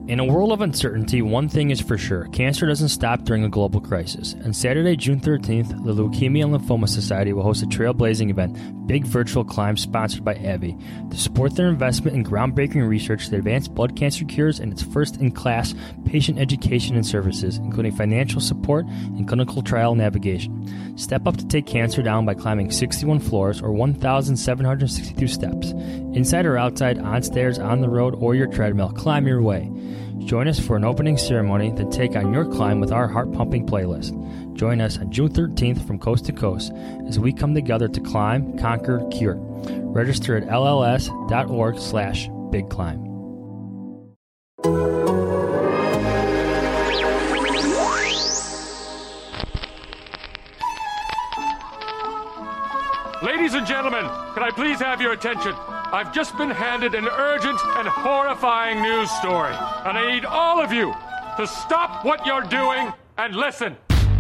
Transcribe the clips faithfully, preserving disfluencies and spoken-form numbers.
In a world of uncertainty, one thing is for sure. Cancer doesn't stop during a global crisis. On Saturday, June thirteenth, the Leukemia and Lymphoma Society will host a trailblazing event, Big Virtual Climb, sponsored by AbbVie, to support their investment in groundbreaking research that advance blood cancer cures and its first-in-class patient education and services, including financial support and clinical trial navigation. Step up to take cancer down by climbing sixty-one floors or one thousand seven hundred sixty-two steps. Inside or outside, on stairs, on the road, or your treadmill, climb your way. Join us for an opening ceremony, then take on your climb with our heart-pumping playlist. Join us on June thirteenth from coast to coast as we come together to climb, conquer, cure. Register at lls.org slash big climb. Ladies and gentlemen, can I please have your attention? I've just been handed an urgent and horrifying news story, and I need all of you to stop what you're doing and listen.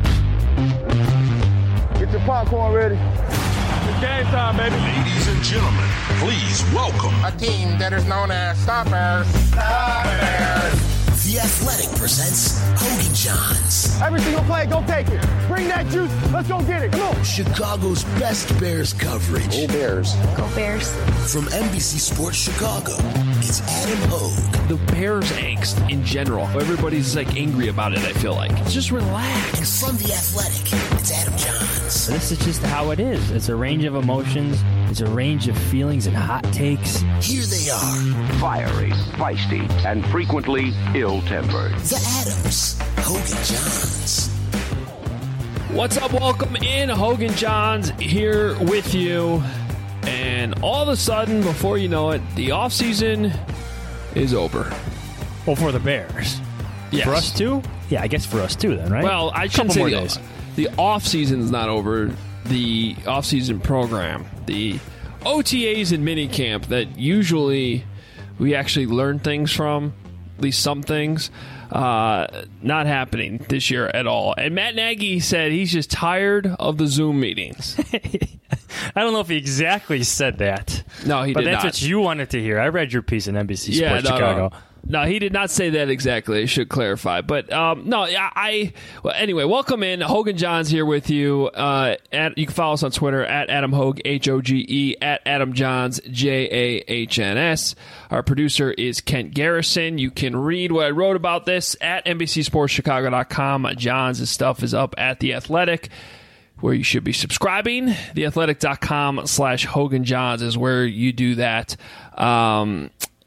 Get your popcorn ready. It's game time, baby. Ladies and gentlemen, please welcome a team that is known as Stoppers. Stoppers. The Athletic presents Hogan Johns. Every single play, go take it. Bring that juice. Let's go get it. Come on. Chicago's best Bears coverage. Go Bears. Go Bears. From N B C Sports Chicago, it's Adam Hogue. The Bears angst in general. Everybody's like angry about it, I feel like. Just relax. And from The Athletic, it's Adam Johns. This is just how it is. It's a range of emotions. It's a range of feelings and hot takes. Here they are. Fiery, feisty, and frequently ill-tempered. The Adams. Hogan Johns. What's up? Welcome in. Hogan Johns here with you. And all of a sudden, before you know it, the offseason is over. Well, for the Bears. Yes. For us too? Yeah, I guess for us too then, right? Well, I shouldn't say the, the offseason's not over. The offseason program, the O T As and minicamp that usually we actually learn things from, at least some things, uh, not happening this year at all. And Matt Nagy said he's just tired of the Zoom meetings. I don't know if he exactly said that. No, he but did not. But that's what you wanted to hear. I read your piece in N B C yeah, Sports no, Chicago. No. No, he did not say that exactly. I should clarify. But, um, no, I, I well, anyway, welcome in. Hogan Johns here with you. Uh, at, you can follow us on Twitter at Adam Hogue, H O G E, at Adam Johns, J A H N S. Our producer is Kent Garrison. You can read what I wrote about this at N B C Sports Chicago dot com. Johns' stuff is up at The Athletic, where you should be subscribing. The Athletic dot com slash Hogan Johns is where you do that. Um,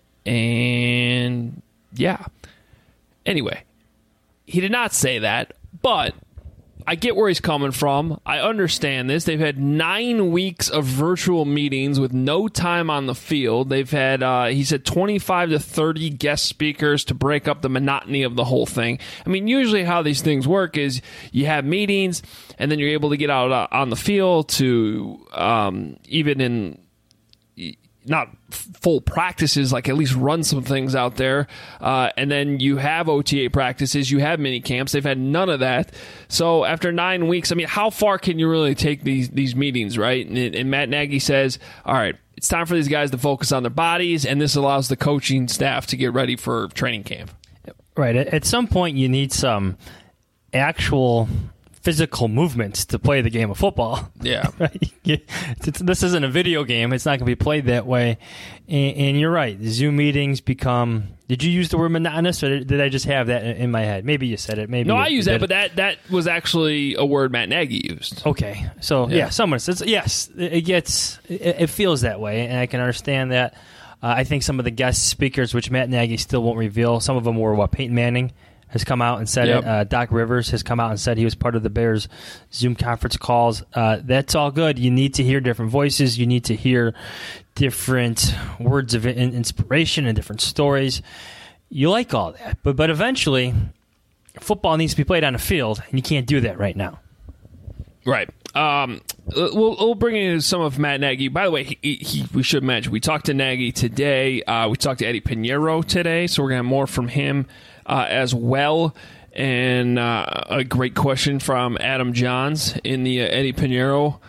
And, yeah. Anyway, he did not say that, but I get where he's coming from. I understand this. They've had nine weeks of virtual meetings with no time on the field. They've had, uh, he said, twenty-five to thirty guest speakers to break up the monotony of the whole thing. I mean, usually how these things work is you have meetings, and then you're able to get out uh, on the field to, um, even in not full practices, like at least run some things out there. Uh, and then you have O T A practices, you have mini camps. They've had none of that. So after nine weeks, I mean, how far can you really take these, these meetings, right? And, and Matt Nagy says, all right, it's time for these guys to focus on their bodies, and this allows the coaching staff to get ready for training camp. Right. At some point, you need some actual physical movements to play the game of football. Yeah. This isn't a video game. It's not going to be played that way. And, and you're right. The Zoom meetings become... Did you use the word monotonous, or did I just have that in my head? Maybe you said it. Maybe No, you, I used that, but that, that was actually a word Matt Nagy used. Okay. So, yeah, yeah someone says... Yes, it gets... It, it feels that way, and I can understand that. Uh, I think some of the guest speakers, which Matt Nagy still won't reveal, some of them were, what, Peyton Manning has come out and said yep. it. Uh, Doc Rivers has come out and said he was part of the Bears Zoom conference calls. Uh, that's all good. You need to hear different voices. You need to hear different words of in- inspiration and different stories. You like all that. But but eventually, football needs to be played on a field, and you can't do that right now. Right. Um, we'll, we'll bring in some of Matt Nagy. By the way, he, he, we should mention, we talked to Nagy today. Uh, we talked to Eddie Pinheiro today, so we're going to have more from him uh, as well. And uh, a great question from Adam Johns in the uh, Eddie Pinheiro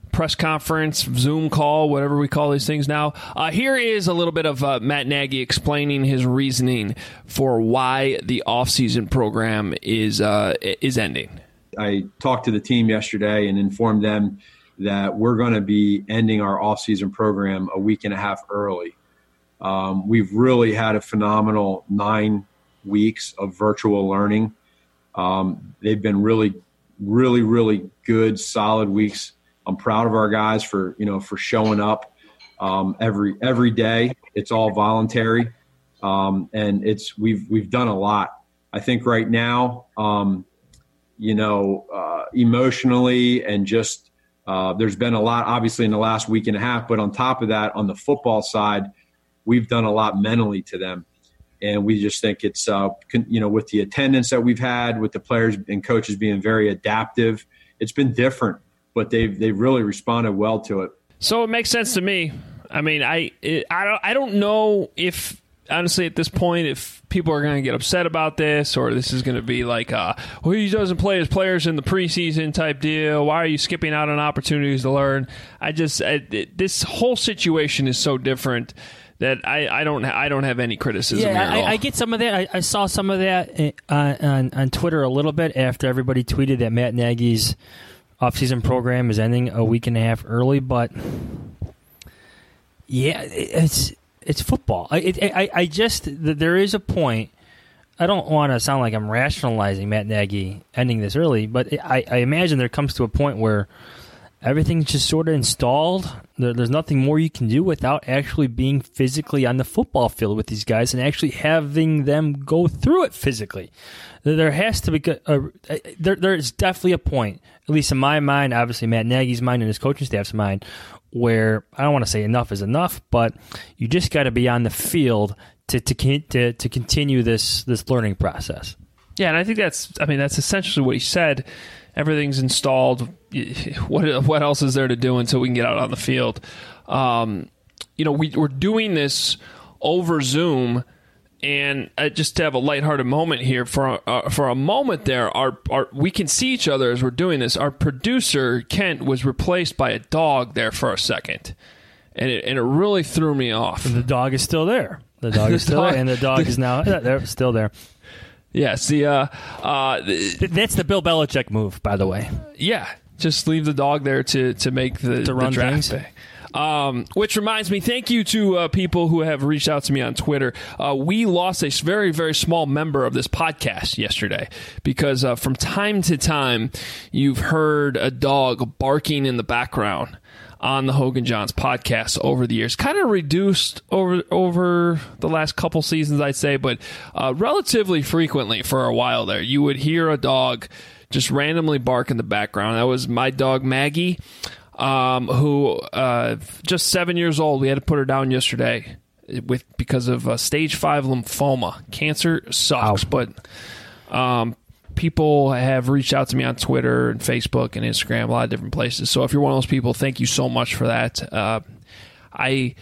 press conference, Zoom call, whatever we call these things now. Uh, here is a little bit of uh, Matt Nagy explaining his reasoning for why the offseason program is uh, is ending. I talked to the team yesterday and informed them that we're going to be ending our offseason program a week and a half early. Um, we've really had a phenomenal nine weeks of virtual learning. Um, they've been really, really, really good, solid weeks. I'm proud of our guys for, you know, for showing up um, every every day. It's all voluntary, um, and it's we've we've done a lot. I think right now, um, you know, uh, emotionally and just uh, there's been a lot, obviously, in the last week and a half. But on top of that, on the football side, we've done a lot mentally to them. And we just think it's, uh, con- you know, with the attendance that we've had, with the players and coaches being very adaptive, it's been different, but they've they've really responded well to it. So it makes sense to me. I mean, I it, I don't I don't know if honestly at this point if people are going to get upset about this or this is going to be like, uh, well, he doesn't play his players in the preseason type deal. Why are you skipping out on opportunities to learn? I just I, it, this whole situation is so different that I, I don't I don't have any criticism yeah, here at I, all. I get some of that. I, I saw some of that uh, on on Twitter a little bit after everybody tweeted that Matt Nagy's offseason program is ending a week and a half early. But yeah, it's it's football. I it, I I just there is a point. I don't want to sound like I'm rationalizing Matt Nagy ending this early, but I, I imagine there comes to a point where everything's just sort of installed. There, there's nothing more you can do without actually being physically on the football field with these guys and actually having them go through it physically. There has to be a, a, there. There's definitely a point, at least in my mind, obviously Matt Nagy's mind and his coaching staff's mind, where I don't want to say enough is enough, but you just got to be on the field to to to to continue this this learning process. Yeah, and I think that's I mean that's essentially what he said. Everything's installed. What what else is there to do until we can get out on the field? Um, you know, we, we're doing this over Zoom, and uh, just to have a lighthearted moment here for uh, for a moment there, our, our we can see each other as we're doing this. Our producer Kent was replaced by a dog there for a second, and it and it really threw me off. And the dog is still there. The dog is still there, and the dog is now yeah, they're still there. Yes, the uh, uh, that's the Bill Belichick move, by the way. Yeah, just leave the dog there to, to make the, to run the draft things. Day. Um, which reminds me, thank you to uh, people who have reached out to me on Twitter. Uh, we lost a very, very small member of this podcast yesterday because uh, from time to time you've heard a dog barking in the background on the Hogan Johns podcast over the years. Kind of reduced over over the last couple seasons, I'd say, but uh, relatively frequently for a while there. You would hear a dog just randomly bark in the background. That was my dog, Maggie, um, who uh, just seven years old. We had to put her down yesterday with because of uh, stage five lymphoma. Cancer sucks, Ow. but... Um, people have reached out to me on Twitter and Facebook and Instagram, a lot of different places. So if you're one of those people, thank you so much for that. Uh, I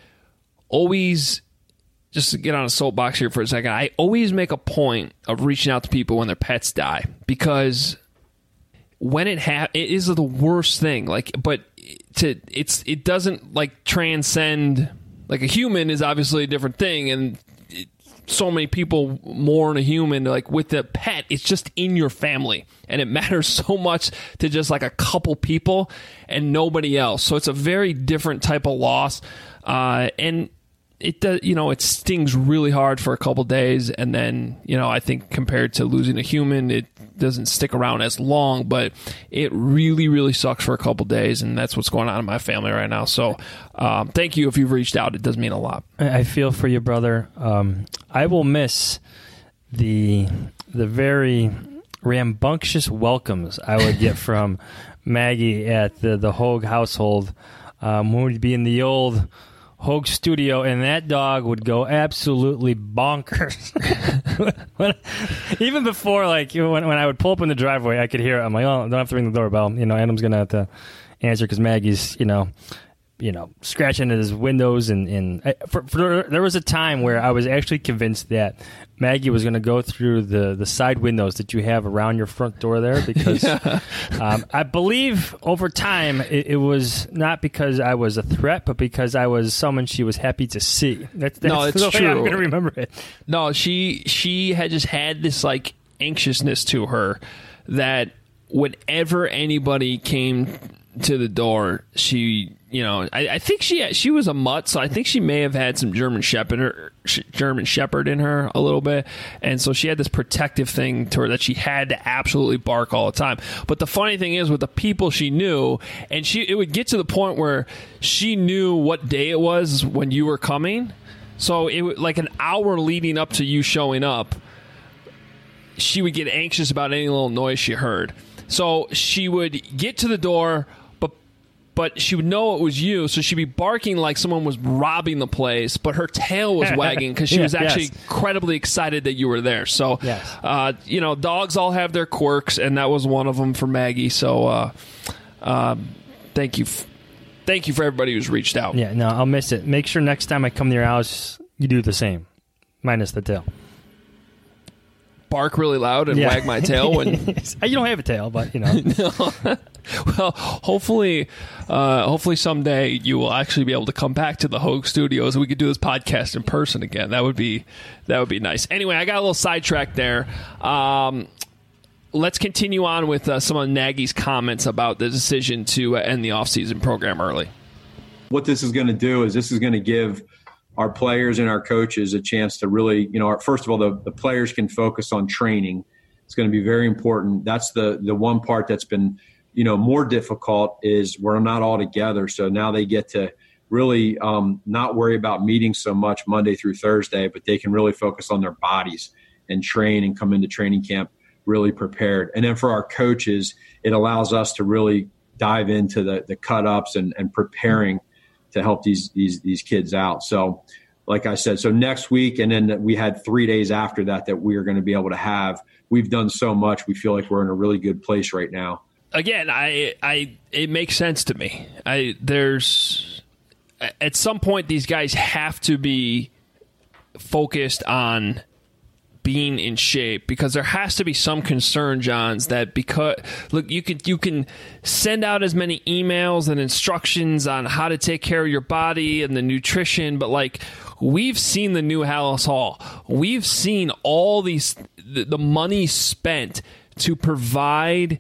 always, just to get on a soapbox here for a second, I always make a point of reaching out to people when their pets die because when it ha- it is the worst thing. Like, but to it's it doesn't like transcend. Like a human is obviously a different thing, and so many people mourn a human. Like with the pet, it's just in your family, and it matters so much to just like a couple people and nobody else. So it's a very different type of loss, uh, and it does, you know, it stings really hard for a couple days, and then, you know, I think compared to losing a human, it doesn't stick around as long, but it really, really sucks for a couple days, and that's what's going on in my family right now. So um, thank you if you've reached out. It does mean a lot. I feel for you, brother. Um, I will miss the the very rambunctious welcomes I would get from Maggie at the, the Hogue household um, when we'd be in the old Hogue studio, and that dog would go absolutely bonkers. when, even before, like, when, when I would pull up in the driveway, I could hear it. I'm like, oh, I don't have to ring the doorbell. You know, Adam's going to have to answer because Maggie's, you know, you know, scratching at his windows. And, and for, for, there was a time where I was actually convinced that Maggie was going to go through the, the side windows that you have around your front door there because yeah. um, I believe over time it, it was not because I was a threat, but because I was someone she was happy to see. That's, that's no, it's the way true. I'm going to remember it. No, she she had just had this like anxiousness to her that whenever anybody came to the door, she, you know, I, I think she she was a mutt, so I think she may have had some German Shepherd, German Shepherd in her a little bit, and so she had this protective thing to her that she had to absolutely bark all the time. But the funny thing is, with the people she knew, and she it would get to the point where she knew what day it was when you were coming, so it would like an hour leading up to you showing up, she would get anxious about any little noise she heard. So she would get to the door, but but she would know it was you, so she'd be barking like someone was robbing the place, but her tail was wagging because she yeah, was actually yes. incredibly excited that you were there. So, yes. uh, you know, dogs all have their quirks, and that was one of them for Maggie. So, uh, uh, thank you. F- thank you for everybody who's reached out. Yeah, no, I'll miss it. Make sure next time I come to your house, you do the same, minus the tail. Bark really loud and yeah. wag my tail when you don't have a tail, but you know. no. Well, hopefully, uh, hopefully someday you will actually be able to come back to the Hogue Studios and we could do this podcast in person again. That would be that would be nice. Anyway, I got a little sidetracked there. Um, let's continue on with uh, some of Nagy's comments about the decision to uh, end the offseason program early. What this is going to do is this is going to give our players and our coaches a chance to really, you know, our, first of all, the, the players can focus on training. It's going to be very important. That's the the one part that's been, you know, more difficult is we're not all together. So now they get to really um, not worry about meetings so much Monday through Thursday, but they can really focus on their bodies and train and come into training camp really prepared. And then for our coaches, it allows us to really dive into the, the cut-ups and, and preparing to help these these these kids out. So like I said, so next week, and then we had three days after that that we are going to be able to have. We've done so much. We feel like we're in a really good place right now. Again, I, I, it makes sense to me. I, there's at some point these guys have to be focused on being in shape because there has to be some concern, Johns, that because look, you can you can send out as many emails and instructions on how to take care of your body and the nutrition, but like we've seen the new Halas Hall, we've seen all these the, the money spent to provide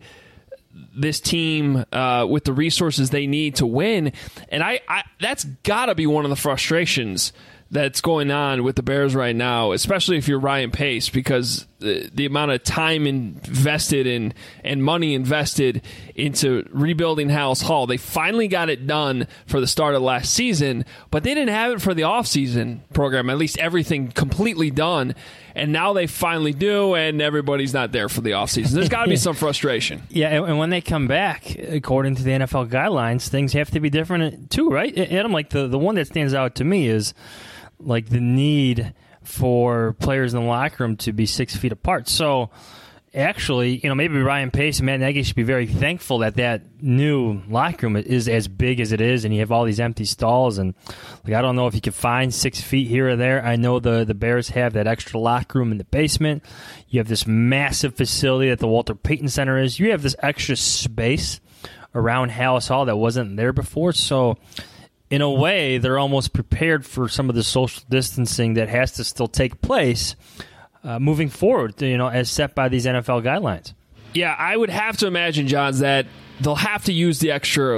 this team uh, with the resources they need to win, and I, I that's got to be one of the frustrations that's going on with the Bears right now, especially if you're Ryan Pace, because the, the amount of time invested in and money invested into rebuilding Halas Hall, they finally got it done for the start of last season, but they didn't have it for the offseason program, at least everything completely done, and now they finally do, and everybody's not there for the offseason. There's got to be some frustration. Yeah, and when they come back, according to the N F L guidelines, things have to be different too, right? Adam, like the, the one that stands out to me is like the need for players in the locker room to be six feet apart. So actually, you know, maybe Ryan Pace and Matt Nagy should be very thankful that that new locker room is as big as it is, and you have all these empty stalls. And like, I don't know if you could find six feet here or there. I know the, the Bears have that extra locker room in the basement. You have this massive facility that the Walter Payton Center is. You have this extra space around Halas Hall that wasn't there before. So in a way, they're almost prepared for some of the social distancing that has to still take place uh, moving forward, you know, as set by these N F L guidelines. Yeah, I would have to imagine, Johns, that they'll have to use the extra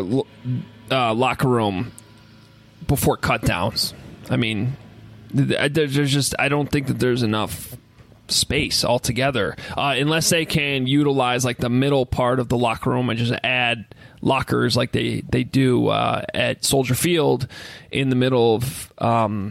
uh, locker room before cutdowns. I mean, there's just I don't think that there's enough space altogether, uh, unless they can utilize like the middle part of the locker room and just add lockers like they they do uh, at Soldier Field in the middle of um,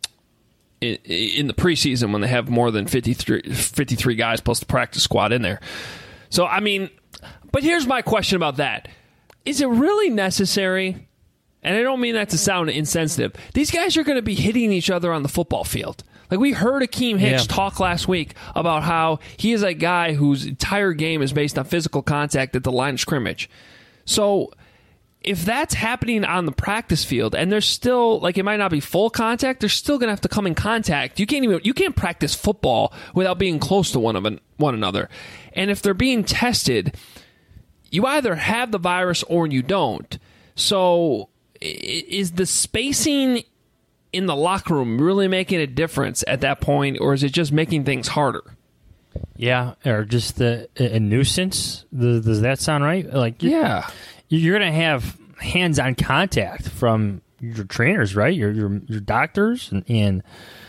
in, in the preseason when they have more than fifty-three, fifty-three guys plus the practice squad in there. So I mean, but here's my question about that: is it really necessary? And I don't mean that to sound insensitive. These guys are going to be hitting each other on the football field. Like, we heard Akeem Hicks yeah. talk last week about how he is a guy whose entire game is based on physical contact at the line of scrimmage. So if that's happening on the practice field and there's still, like, it might not be full contact, they're still going to have to come in contact. You can't even, you can't practice football without being close to one of an, one another. And if they're being tested, you either have the virus or you don't. So is the spacing in the locker room really making a difference at that point, or is it just making things harder? Yeah, or just a, a nuisance. Does that sound right? Like, yeah. You're going to have hands-on contact from your trainers, right? Your your, your doctors and, and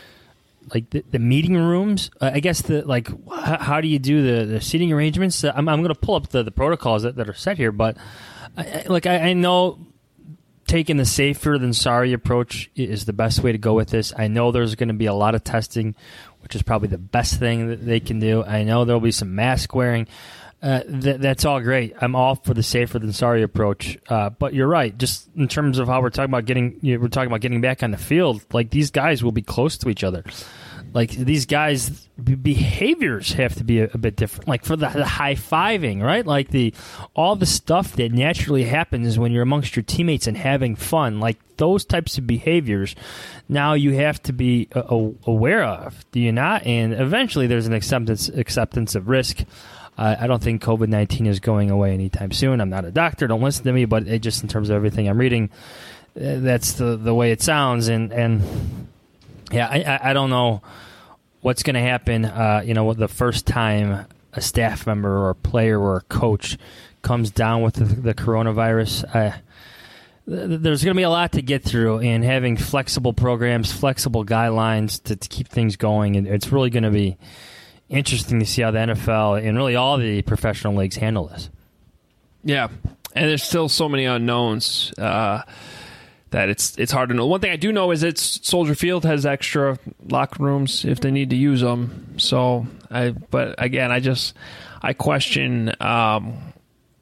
like the, the meeting rooms. Uh, I guess the like how, how do you do the, the seating arrangements? Uh, I'm I'm going to pull up the, the protocols that, that are set here, but I, like I, I know taking the safer than sorry approach is the best way to go with this. I know there's going to be a lot of testing, which is probably the best thing that they can do. I know there'll be some mask wearing. Uh, th- that's all great. I'm all for the safer than sorry approach. Uh, but you're right. Just in terms of how we're talking about getting, you know, we're talking about getting back on the field. Like, these guys will be close to each other. Like, these guys' b- behaviors have to be a, a bit different. Like, for the, the high fiving, right? Like the all the stuff that naturally happens when you're amongst your teammates and having fun. Like, those types of behaviors, now you have to be uh, aware of. Do you not? And eventually, there's an acceptance acceptance of risk. Uh, I don't think COVID nineteen is going away anytime soon. I'm not a doctor. Don't listen to me. But it just in terms of everything I'm reading, uh, that's the, the way it sounds. And, and yeah, I, I, I don't know what's going to happen, uh, you know, the first time a staff member or a player or a coach comes down with the, the coronavirus. Uh, th- there's going to be a lot to get through, and having flexible programs, flexible guidelines to, to keep things going. And it's really going to be interesting to see how the N F L and really all the professional leagues handle this. Yeah, and there's still so many unknowns uh, that it's it's hard to know. One thing I do know is that Soldier Field has extra locker rooms if they need to use them. So, I but again, I just I question. Um,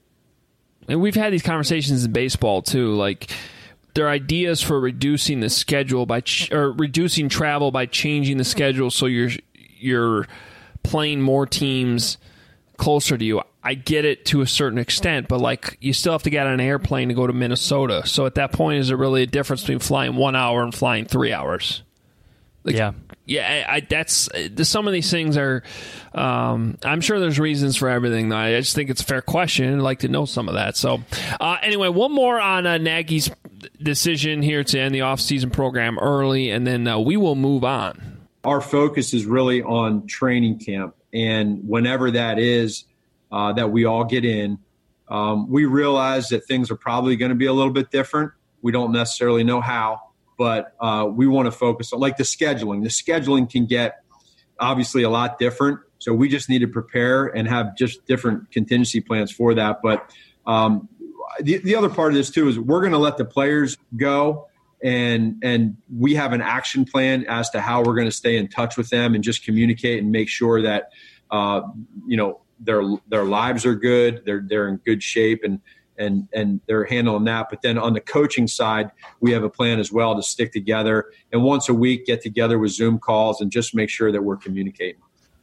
and we've had these conversations in baseball too, like there are ideas for reducing the schedule by ch- or reducing travel by changing the schedule so you're you're playing more teams closer to you. I get it to a certain extent, but like you still have to get on an airplane to go to Minnesota. So at that point, is there really a difference between flying one hour and flying three hours? Like, yeah, yeah. I, I, that's some of these things are. Um, I'm sure there's reasons for everything. Though. I just think it's a fair question. I'd like to know some of that. So uh, anyway, one more on uh, Nagy's decision here to end the offseason program early, and then uh, we will move on. Our focus is really on training camp, and whenever that is uh, that we all get in, um, we realize that things are probably going to be a little bit different. We don't necessarily know how, but uh, we want to focus on like the scheduling. The scheduling can get obviously a lot different, so we just need to prepare and have just different contingency plans for that. But um, the, the other part of this too is we're going to let the players go. And and we have an action plan as to how we're going to stay in touch with them and just communicate and make sure that uh, you know their their lives are good, they're they're in good shape, and and and they're handling that. But then on the coaching side, we have a plan as well to stick together and once a week get together with Zoom calls and just make sure that we're communicating.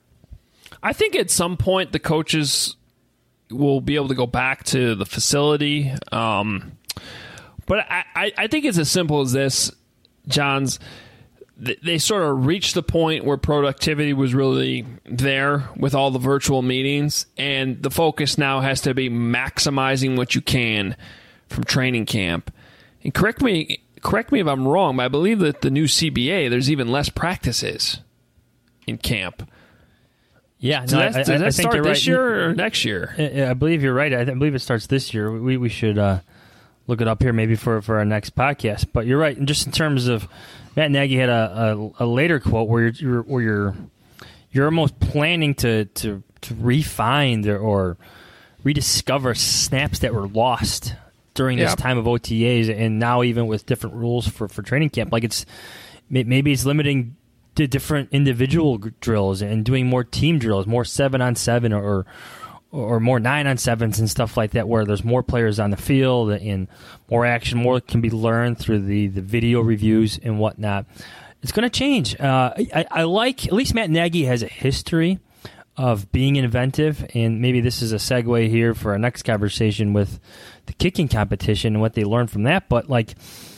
I think at some point the coaches will be able to go back to the facility. Um, But I, I think it's as simple as this, Johns. They sort of reached the point where productivity was really there with all the virtual meetings, and the focus now has to be maximizing what you can from training camp. And correct me, correct me if I'm wrong, but I believe that the new C B A, there's even less practices in camp. Yeah, does no, that, I, does I, that I start think this right. year or next year? I, I believe you're right. I, I believe it starts this year. We we should uh, look it up here maybe for, for our next podcast. But you're right. And just in terms of Matt Nagy had a, a, a later quote where you're, you're where you're you're almost planning to to, to refine or, or rediscover snaps that were lost during this yeah. time of O T As, and now even with different rules for, for training camp. Like it's maybe it's limiting to different individual drills and doing more team drills, more seven on seven or or more nine on sevens and stuff like that, where there's more players on the field and more action, more can be learned through the, the video reviews and whatnot. It's going to change. Uh, I, I like, at least Matt Nagy has a history of being inventive, and maybe this is a segue here for our next conversation with the kicking competition and what they learned from that. But like,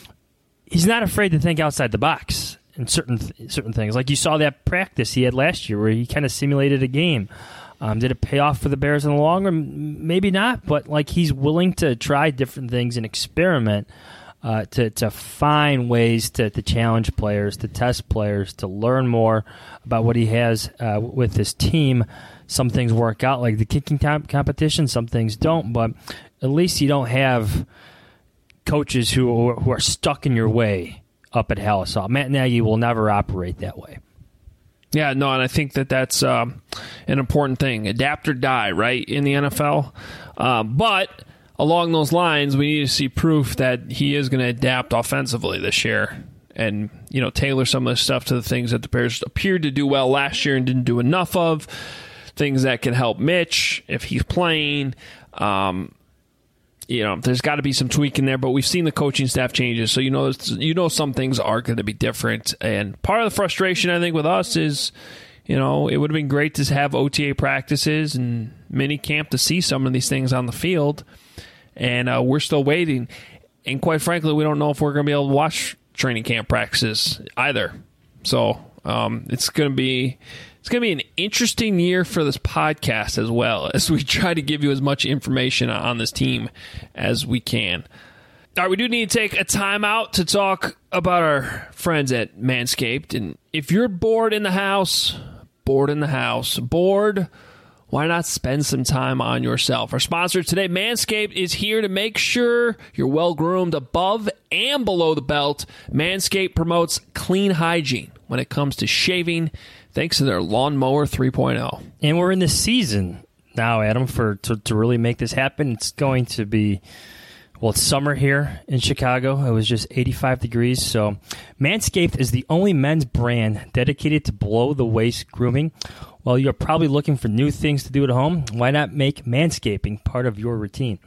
he's not afraid to think outside the box in certain th- certain things. Like you saw that practice he had last year where he kind of simulated a game. Um, did it pay off for the Bears in the long run? Maybe not, but like he's willing to try different things and experiment uh, to to find ways to, to challenge players, to test players, to learn more about what he has uh, with his team. Some things work out, like the kicking comp- competition. Some things don't, but at least you don't have coaches who who are stuck in your way up at Halisol. Matt Nagy will never operate that way. Yeah, no, and I think that that's um, an important thing. Adapt or die, right, in the N F L. Um, but along those lines, we need to see proof that he is going to adapt offensively this year and, you know, tailor some of the stuff to the things that the Bears appeared to do well last year and didn't do enough of, things that can help Mitch if he's playing. Um, you know, there's got to be some tweaking there, but we've seen the coaching staff changes, so you know you know some things are going to be different. And part of the frustration, I think, with us is, you know, it would have been great to have O T A practices and mini camp to see some of these things on the field, and uh, we're still waiting. And quite frankly, we don't know if we're going to be able to watch training camp practices either. So um, it's going to be... It's going to be an interesting year for this podcast as well, as we try to give you as much information on this team as we can. All right, we do need to take a time out to talk about our friends at Manscaped. And if you're bored in the house, bored in the house, bored, why not spend some time on yourself? Our sponsor today, Manscaped, is here to make sure you're well-groomed above and below the belt. Manscaped promotes clean hygiene when it comes to shaving, thanks to their Lawnmower three point oh. And we're in the season now, Adam, for to, to really make this happen. It's going to be, well, it's summer here in Chicago. It was just eighty-five degrees. So Manscaped is the only men's brand dedicated to below-the-waist grooming. While you're probably looking for new things to do at home, why not make manscaping part of your routine?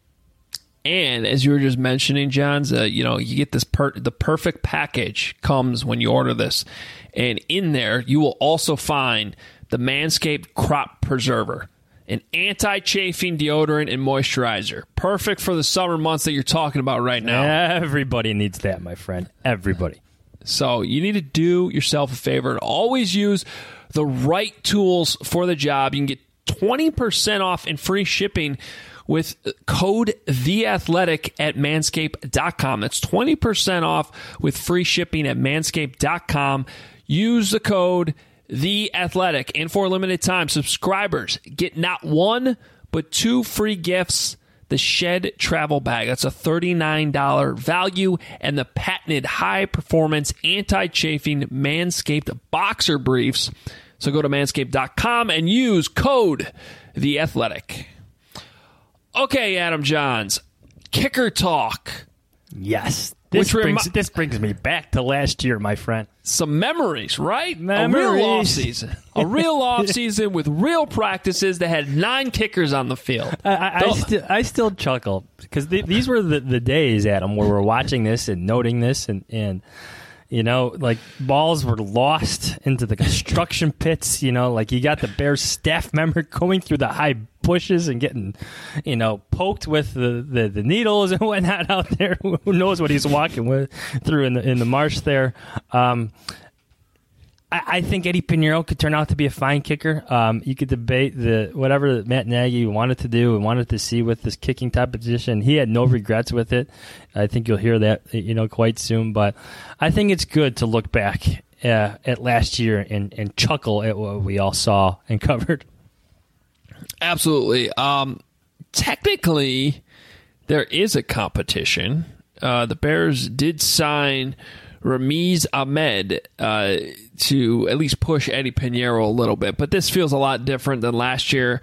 And as you were just mentioning, Johns, uh, you know, you get this per- the perfect package comes when you order this. And in there, you will also find the Manscaped Crop Preserver, an anti-chafing deodorant and moisturizer. Perfect for the summer months that you're talking about right now. Everybody needs that, my friend. Everybody. So you need to do yourself a favor and always use the right tools for the job. You can get twenty percent off and free shipping with code THEATHLETIC at manscaped dot com. That's twenty percent off with free shipping at manscaped dot com. Use the code THEATHLETIC. And for a limited time, subscribers get not one, but two free gifts. The Shed Travel Bag. That's a thirty-nine dollars value. And the patented high-performance anti-chafing Manscaped Boxer Briefs. So go to manscaped dot com and use code THEATHLETIC. Okay, Adam Johns, kicker talk. Yes. This Which brings, remi- this brings me back to last year, my friend. Some memories, right? Memories. A real offseason. A real offseason with real practices that had nine kickers on the field. I, I, I, sti- I still chuckle because th- these were the, the days, Adam, where we're watching this and noting this and, and you know, like balls were lost into the construction pits. You know, like you got the Bears staff member going through the high bushes and getting, you know, poked with the, the, the needles and whatnot out there. Who knows what he's walking with through in the in the marsh there. Um, I, I think Eddie Pinheiro could turn out to be a fine kicker. Um, you could debate the whatever that Matt Nagy wanted to do and wanted to see with this kicking type of position. He had no regrets with it. I think you'll hear that, you know, quite soon. But I think it's good to look back uh, at last year and, and chuckle at what we all saw and covered. Absolutely. Um, technically, there is a competition. Uh, the Bears did sign Ramiz Ahmed uh, to at least push Eddie Pinheiro a little bit, but this feels a lot different than last year.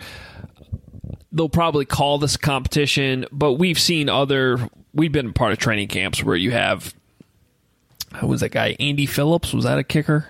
They'll probably call this competition, but we've seen other. We've been part of training camps where you have. Who was that guy? Andy Phillips? Was that a kicker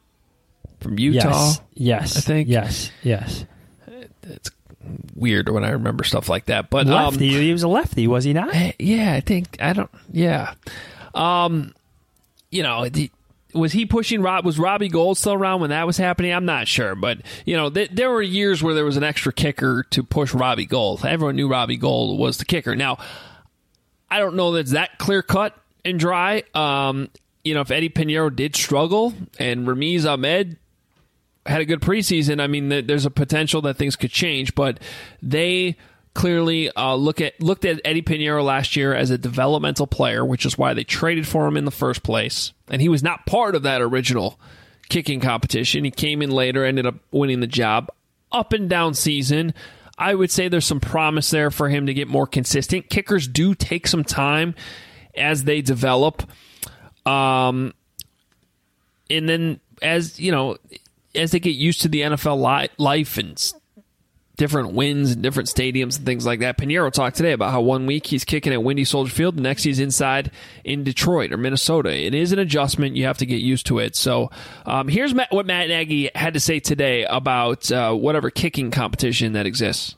from Utah? Yes. Yes. I think. Yes. Yes. It's weird when I remember stuff like that. But lefty. Um, he was a lefty, was he not? Yeah, I think I don't. Yeah. Um. You know, the, was he pushing Rob? Was Robbie Gould still around when that was happening? I'm not sure, but you know, th- there were years where there was an extra kicker to push Robbie Gould. Everyone knew Robbie Gould was the kicker. Now, I don't know that it's that clear cut and dry. Um, you know, if Eddie Pinheiro did struggle and Ramiz Ahmed had a good preseason, I mean, th- there's a potential that things could change. But they clearly uh, look at looked at Eddie Pinheiro last year as a developmental player, which is why they traded for him in the first place. And he was not part of that original kicking competition. He came in later, ended up winning the job. Up and down season, I would say there's some promise there for him to get more consistent. Kickers do take some time as they develop. Um, and then as, you know, as they get used to the N F L li- life and different wins in different stadiums and things like that. Pinheiro talked today about how one week he's kicking at Windy Soldier Field, the next he's inside in Detroit or Minnesota. It is an adjustment. You have to get used to it. So um, here's Matt, what Matt Nagy had to say today about uh, whatever kicking competition that exists.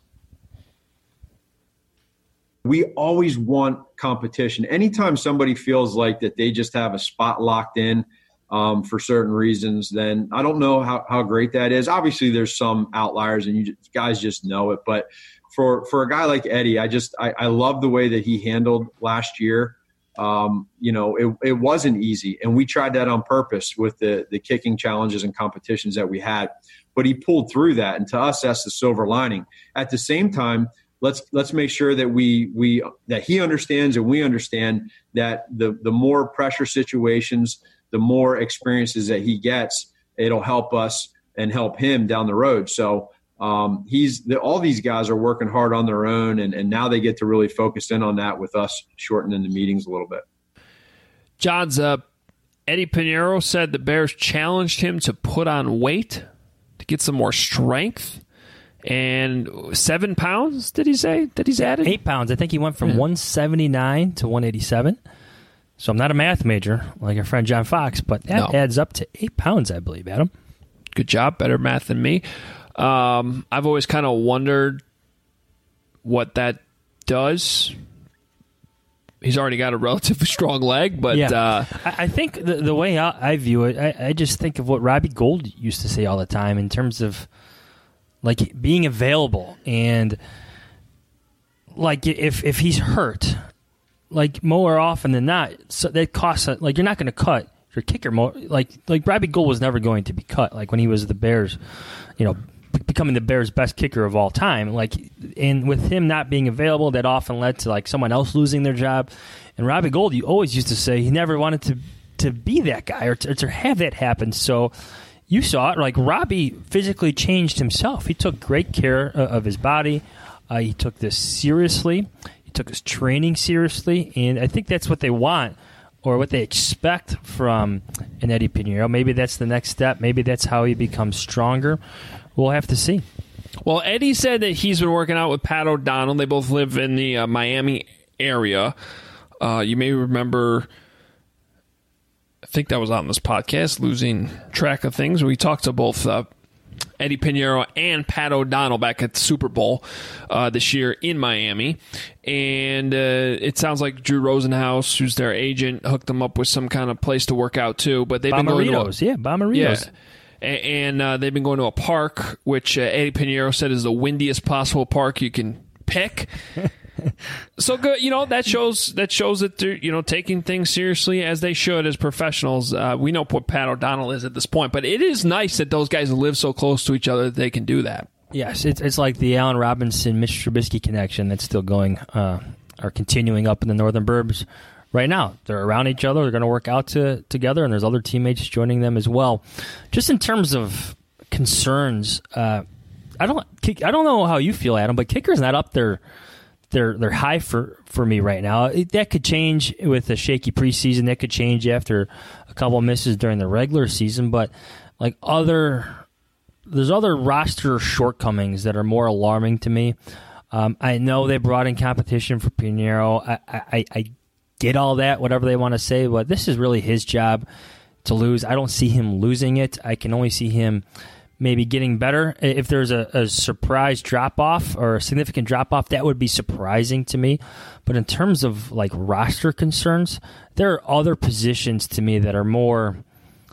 We always want competition. Anytime somebody feels like that they just have a spot locked in Um, for certain reasons, then I don't know how, how great that is. Obviously, there's some outliers, and you just, guys just know it. But for for a guy like Eddie, I just I, I love the way that he handled last year. Um, you know, it, it wasn't easy, and we tried that on purpose with the the kicking challenges and competitions that we had. But he pulled through that, and to us, that's the silver lining. At the same time, let's let's make sure that we we that he understands and we understand that the the more pressure situations, the more experiences that he gets, it'll help us and help him down the road. So um, he's the, all these guys are working hard on their own, and, and now they get to really focus in on that with us shortening the meetings a little bit. John's uh, Eddie Pinheiro said the Bears challenged him to put on weight to get some more strength. And seven pounds, did he say, that he's added? Eight pounds. I think he went from yeah. one seventy-nine to one eighty-seven. So I'm not a math major like our friend John Fox, but that no. adds up to eight pounds, I believe, Adam. Good job. Better math than me. Um, I've always kind of wondered what that does. He's already got a relatively strong leg, but yeah. uh, I, I think the, the way I, I view it, I, I just think of what Robbie Gould used to say all the time in terms of like being available, and like if if he's hurt. Like more often than not, so that costs like you're not going to cut your kicker more. Like like Robbie Gould was never going to be cut. Like when he was the Bears, you know, becoming the Bears' best kicker of all time. Like and with him not being available, that often led to like someone else losing their job. And Robbie Gould, you always used to say he never wanted to to be that guy or to, or to have that happen. So you saw it. Like Robbie physically changed himself. He took great care of his body. Uh, he took this seriously. Took his training seriously, and I think that's what they want or what they expect from an Eddie Pinheiro. Maybe that's the next step. Maybe that's how he becomes stronger. We'll have to see. Well, Eddie said that he's been working out with Pat O'Donnell. They both live in the uh, Miami area. Uh, you may remember, I think that was on this podcast, Losing Track of Things. We talked to both uh, Eddie Pinheiro and Pat O'Donnell back at the Super Bowl uh, this year in Miami. And uh, it sounds like Drew Rosenhaus, who's their agent, hooked them up with some kind of place to work out too. But they've been going to a, yeah, Bomeritos. Yeah, and uh, they've been going to a park, which uh, Eddie Pinheiro said is the windiest possible park you can pick. So good, you know, that shows that shows that they're, you know, taking things seriously as they should as professionals. Uh, we know what Pat O'Donnell is at this point, but it is nice that those guys live so close to each other that they can do that. Yes, it's it's like the Allen Robinson, Mitch Trubisky connection that's still going, uh, or continuing up in the Northern Burbs right now. They're around each other. They're going to work out to, together, and there's other teammates joining them as well. Just in terms of concerns, uh, I don't I don't know how you feel, Adam, but kicker's not up there. They're they're high for, for me right now. It, that could change with a shaky preseason. That could change after a couple of misses during the regular season. But like other, there's other roster shortcomings that are more alarming to me. Um, I know they brought in competition for Pinheiro. I, I I get all that, whatever they want to say, but this is really his job to lose. I don't see him losing it. I can only see him maybe getting better. If there's a, a surprise drop-off or a significant drop-off, that would be surprising to me. But in terms of like roster concerns, there are other positions to me that are more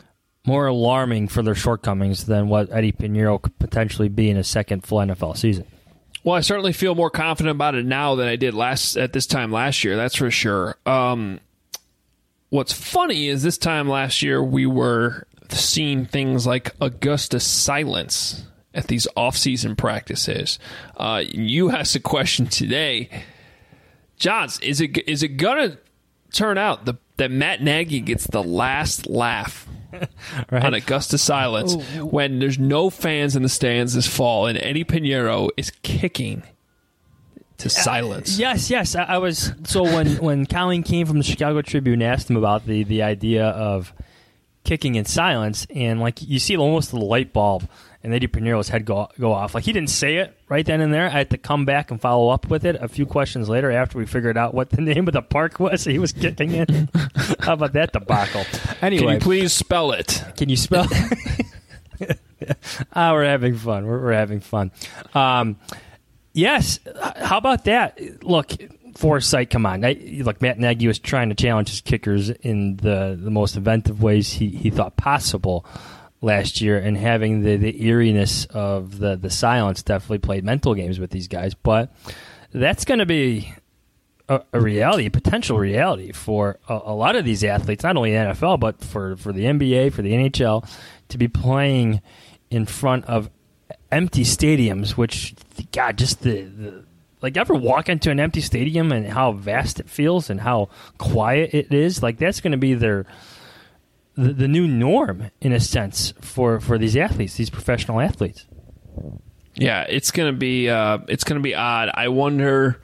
more alarming for their shortcomings than what Eddie Pinheiro could potentially be in his second full N F L season. Well, I certainly feel more confident about it now than I did last at this time last year. That's for sure. Um, what's funny is this time last year we were seeing things like Augusta silence at these off-season practices. Uh, you asked a question today, Johns. Is it is it gonna turn out the, that Matt Nagy gets the last laugh right. on Augusta silence Ooh. when there's no fans in the stands this fall and Eddie Pinheiro is kicking to silence? Uh, yes, yes. I, I was so when when Colleen Keane from the Chicago Tribune asked him about the the idea of kicking in silence, and like you see almost the light bulb and Eddie Pinheiro's head go go off. Like he didn't say it right then and there. I had to come back and follow up with it a few questions later after we figured out what the name of the park was he was kicking in. How about that debacle? Anyway, can you please spell it? Can you spell it? ah, we're having fun. We're, we're having fun. Um, yes. How about that? Look, foresight, come on. I, look, Matt Nagy was trying to challenge his kickers in the, the most inventive ways he, he thought possible last year, and having the, the eeriness of the, the silence definitely played mental games with these guys. But that's going to be a, a reality, a potential reality for a, a lot of these athletes, not only in the N F L, but for, for the N B A, for the N H L, to be playing in front of empty stadiums, which, God, just the, the like, ever walk into an empty stadium and how vast it feels and how quiet it is? Like, that's going to be their the, the new norm, in a sense, for, for these athletes, these professional athletes. Yeah, it's going to be uh, it's going to be odd. I wonder.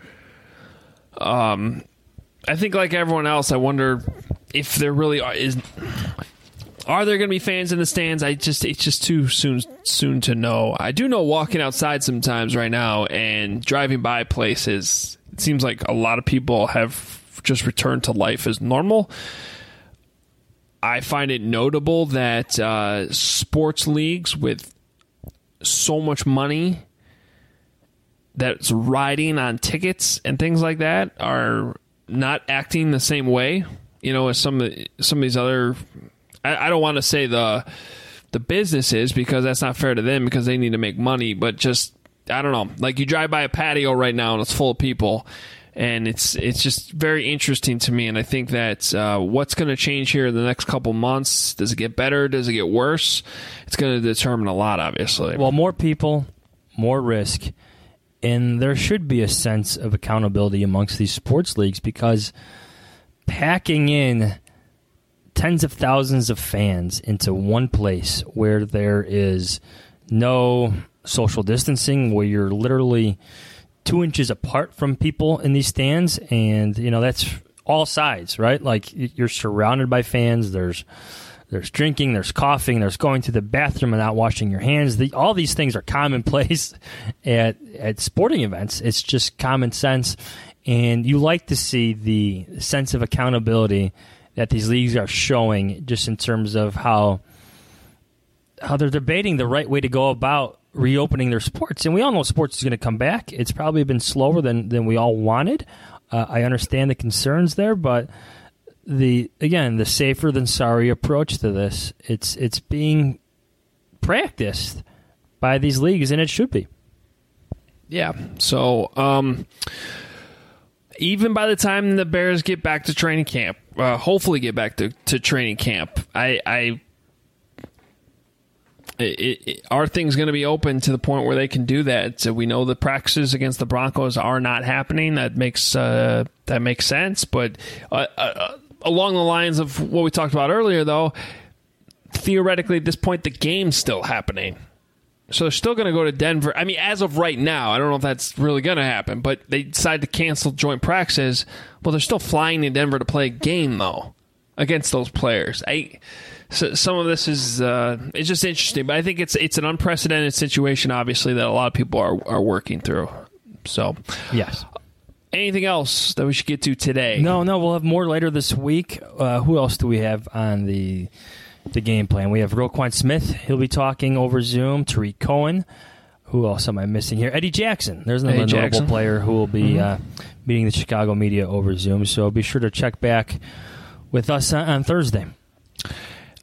Um, I think, like everyone else, I wonder if there really are, is. Are there going to be fans in the stands? I just it's just too soon soon to know. I do know walking outside sometimes right now and driving by places, it seems like a lot of people have just returned to life as normal. I find it notable that uh, sports leagues with so much money that's riding on tickets and things like that are not acting the same way, you know, as some of the, some of these other. I, I don't want to say the the businesses, because that's not fair to them because they need to make money. But just I don't know, like you drive by a patio right now and it's full of people. And it's it's just very interesting to me, and I think that uh, what's going to change here in the next couple months, does it get better, does it get worse? It's going to determine a lot, obviously. Well, more people, more risk, and there should be a sense of accountability amongst these sports leagues, because packing in tens of thousands of fans into one place where there is no social distancing, where you're literally two inches apart from people in these stands, and you know that's all sides, right? Like you're surrounded by fans. There's there's drinking, there's coughing, there's going to the bathroom and not washing your hands. The, all these things are commonplace at at sporting events. It's just common sense, and you like to see the sense of accountability that these leagues are showing, just in terms of how how they're debating the right way to go about reopening their sports. And we all know sports is going to come back. It's probably been slower than, than we all wanted. Uh, I understand the concerns there, but the again, the safer than sorry approach to this, it's it's being practiced by these leagues, and it should be. Yeah. So um, even by the time the Bears get back to training camp, uh, hopefully get back to, to training camp, I, I It, it, are things going to be open to the point where they can do that? So we know the practices against the Broncos are not happening. That makes uh, that makes sense. But uh, uh, along the lines of what we talked about earlier, though, theoretically at this point the game's still happening. So they're still going to go to Denver. I mean, as of right now, I don't know if that's really going to happen, but they decide to cancel joint practices. Well, they're still flying to Denver to play a game, though, against those players. I... So some of this is uh, it's just interesting, but I think it's it's an unprecedented situation, obviously, that a lot of people are are working through. So, yes. Anything else that we should get to today? No, no. We'll have more later this week. Uh, who else do we have on the the game plan? We have Roquan Smith. He'll be talking over Zoom. Tariq Cohen. Who else am I missing here? Eddie Jackson. There's another Eddie notable Jackson. player who will be Mm-hmm. uh, meeting the Chicago media over Zoom. So be sure to check back with us on, on Thursday.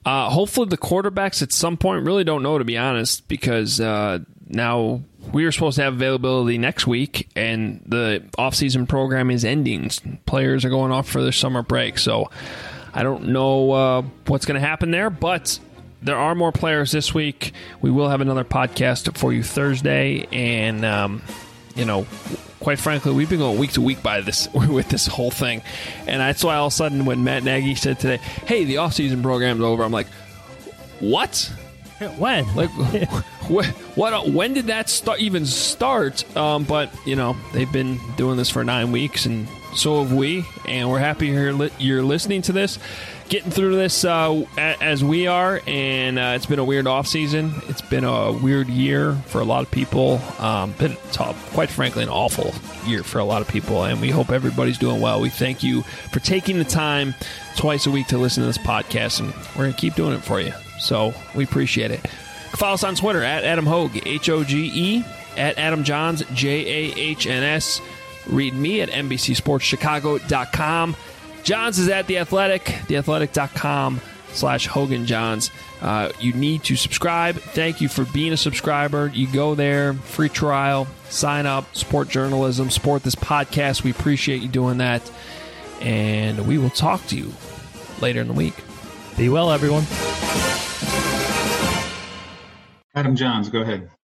Uh, hopefully the quarterbacks at some point, really don't know, to be honest, because uh, now we are supposed to have availability next week, and the offseason program is ending. Players are going off for their summer break, so I don't know uh, what's going to happen there, but there are more players this week. We will have another podcast for you Thursday, and, um, you know, quite frankly, we've been going week to week by this with this whole thing, and that's why all of a sudden when Matt Nagy said today, hey, the offseason program's over, I'm like, what? When? Like, what, what? When did that start, even start? Um, but, you know, they've been doing this for nine weeks, and so have we, and we're happy you're, li- you're listening to this, getting through this uh, as we are, and uh, it's been a weird offseason. It's been a weird year for a lot of people. Um, been tough, quite frankly, an awful year for a lot of people, and we hope everybody's doing well. We thank you for taking the time twice a week to listen to this podcast, and we're going to keep doing it for you. So we appreciate it. Follow us on Twitter at Adam Hogue, H O G E, at Adam Johns, J A H N S. Read me at N B C Sports Chicago dot com. Johns is at The Athletic, theathletic.com slash Hogan Johns. Uh, you need to subscribe. Thank you for being a subscriber. You go there, free trial, sign up, support journalism, support this podcast. We appreciate you doing that. And we will talk to you later in the week. Be well, everyone. Adam Johns, go ahead.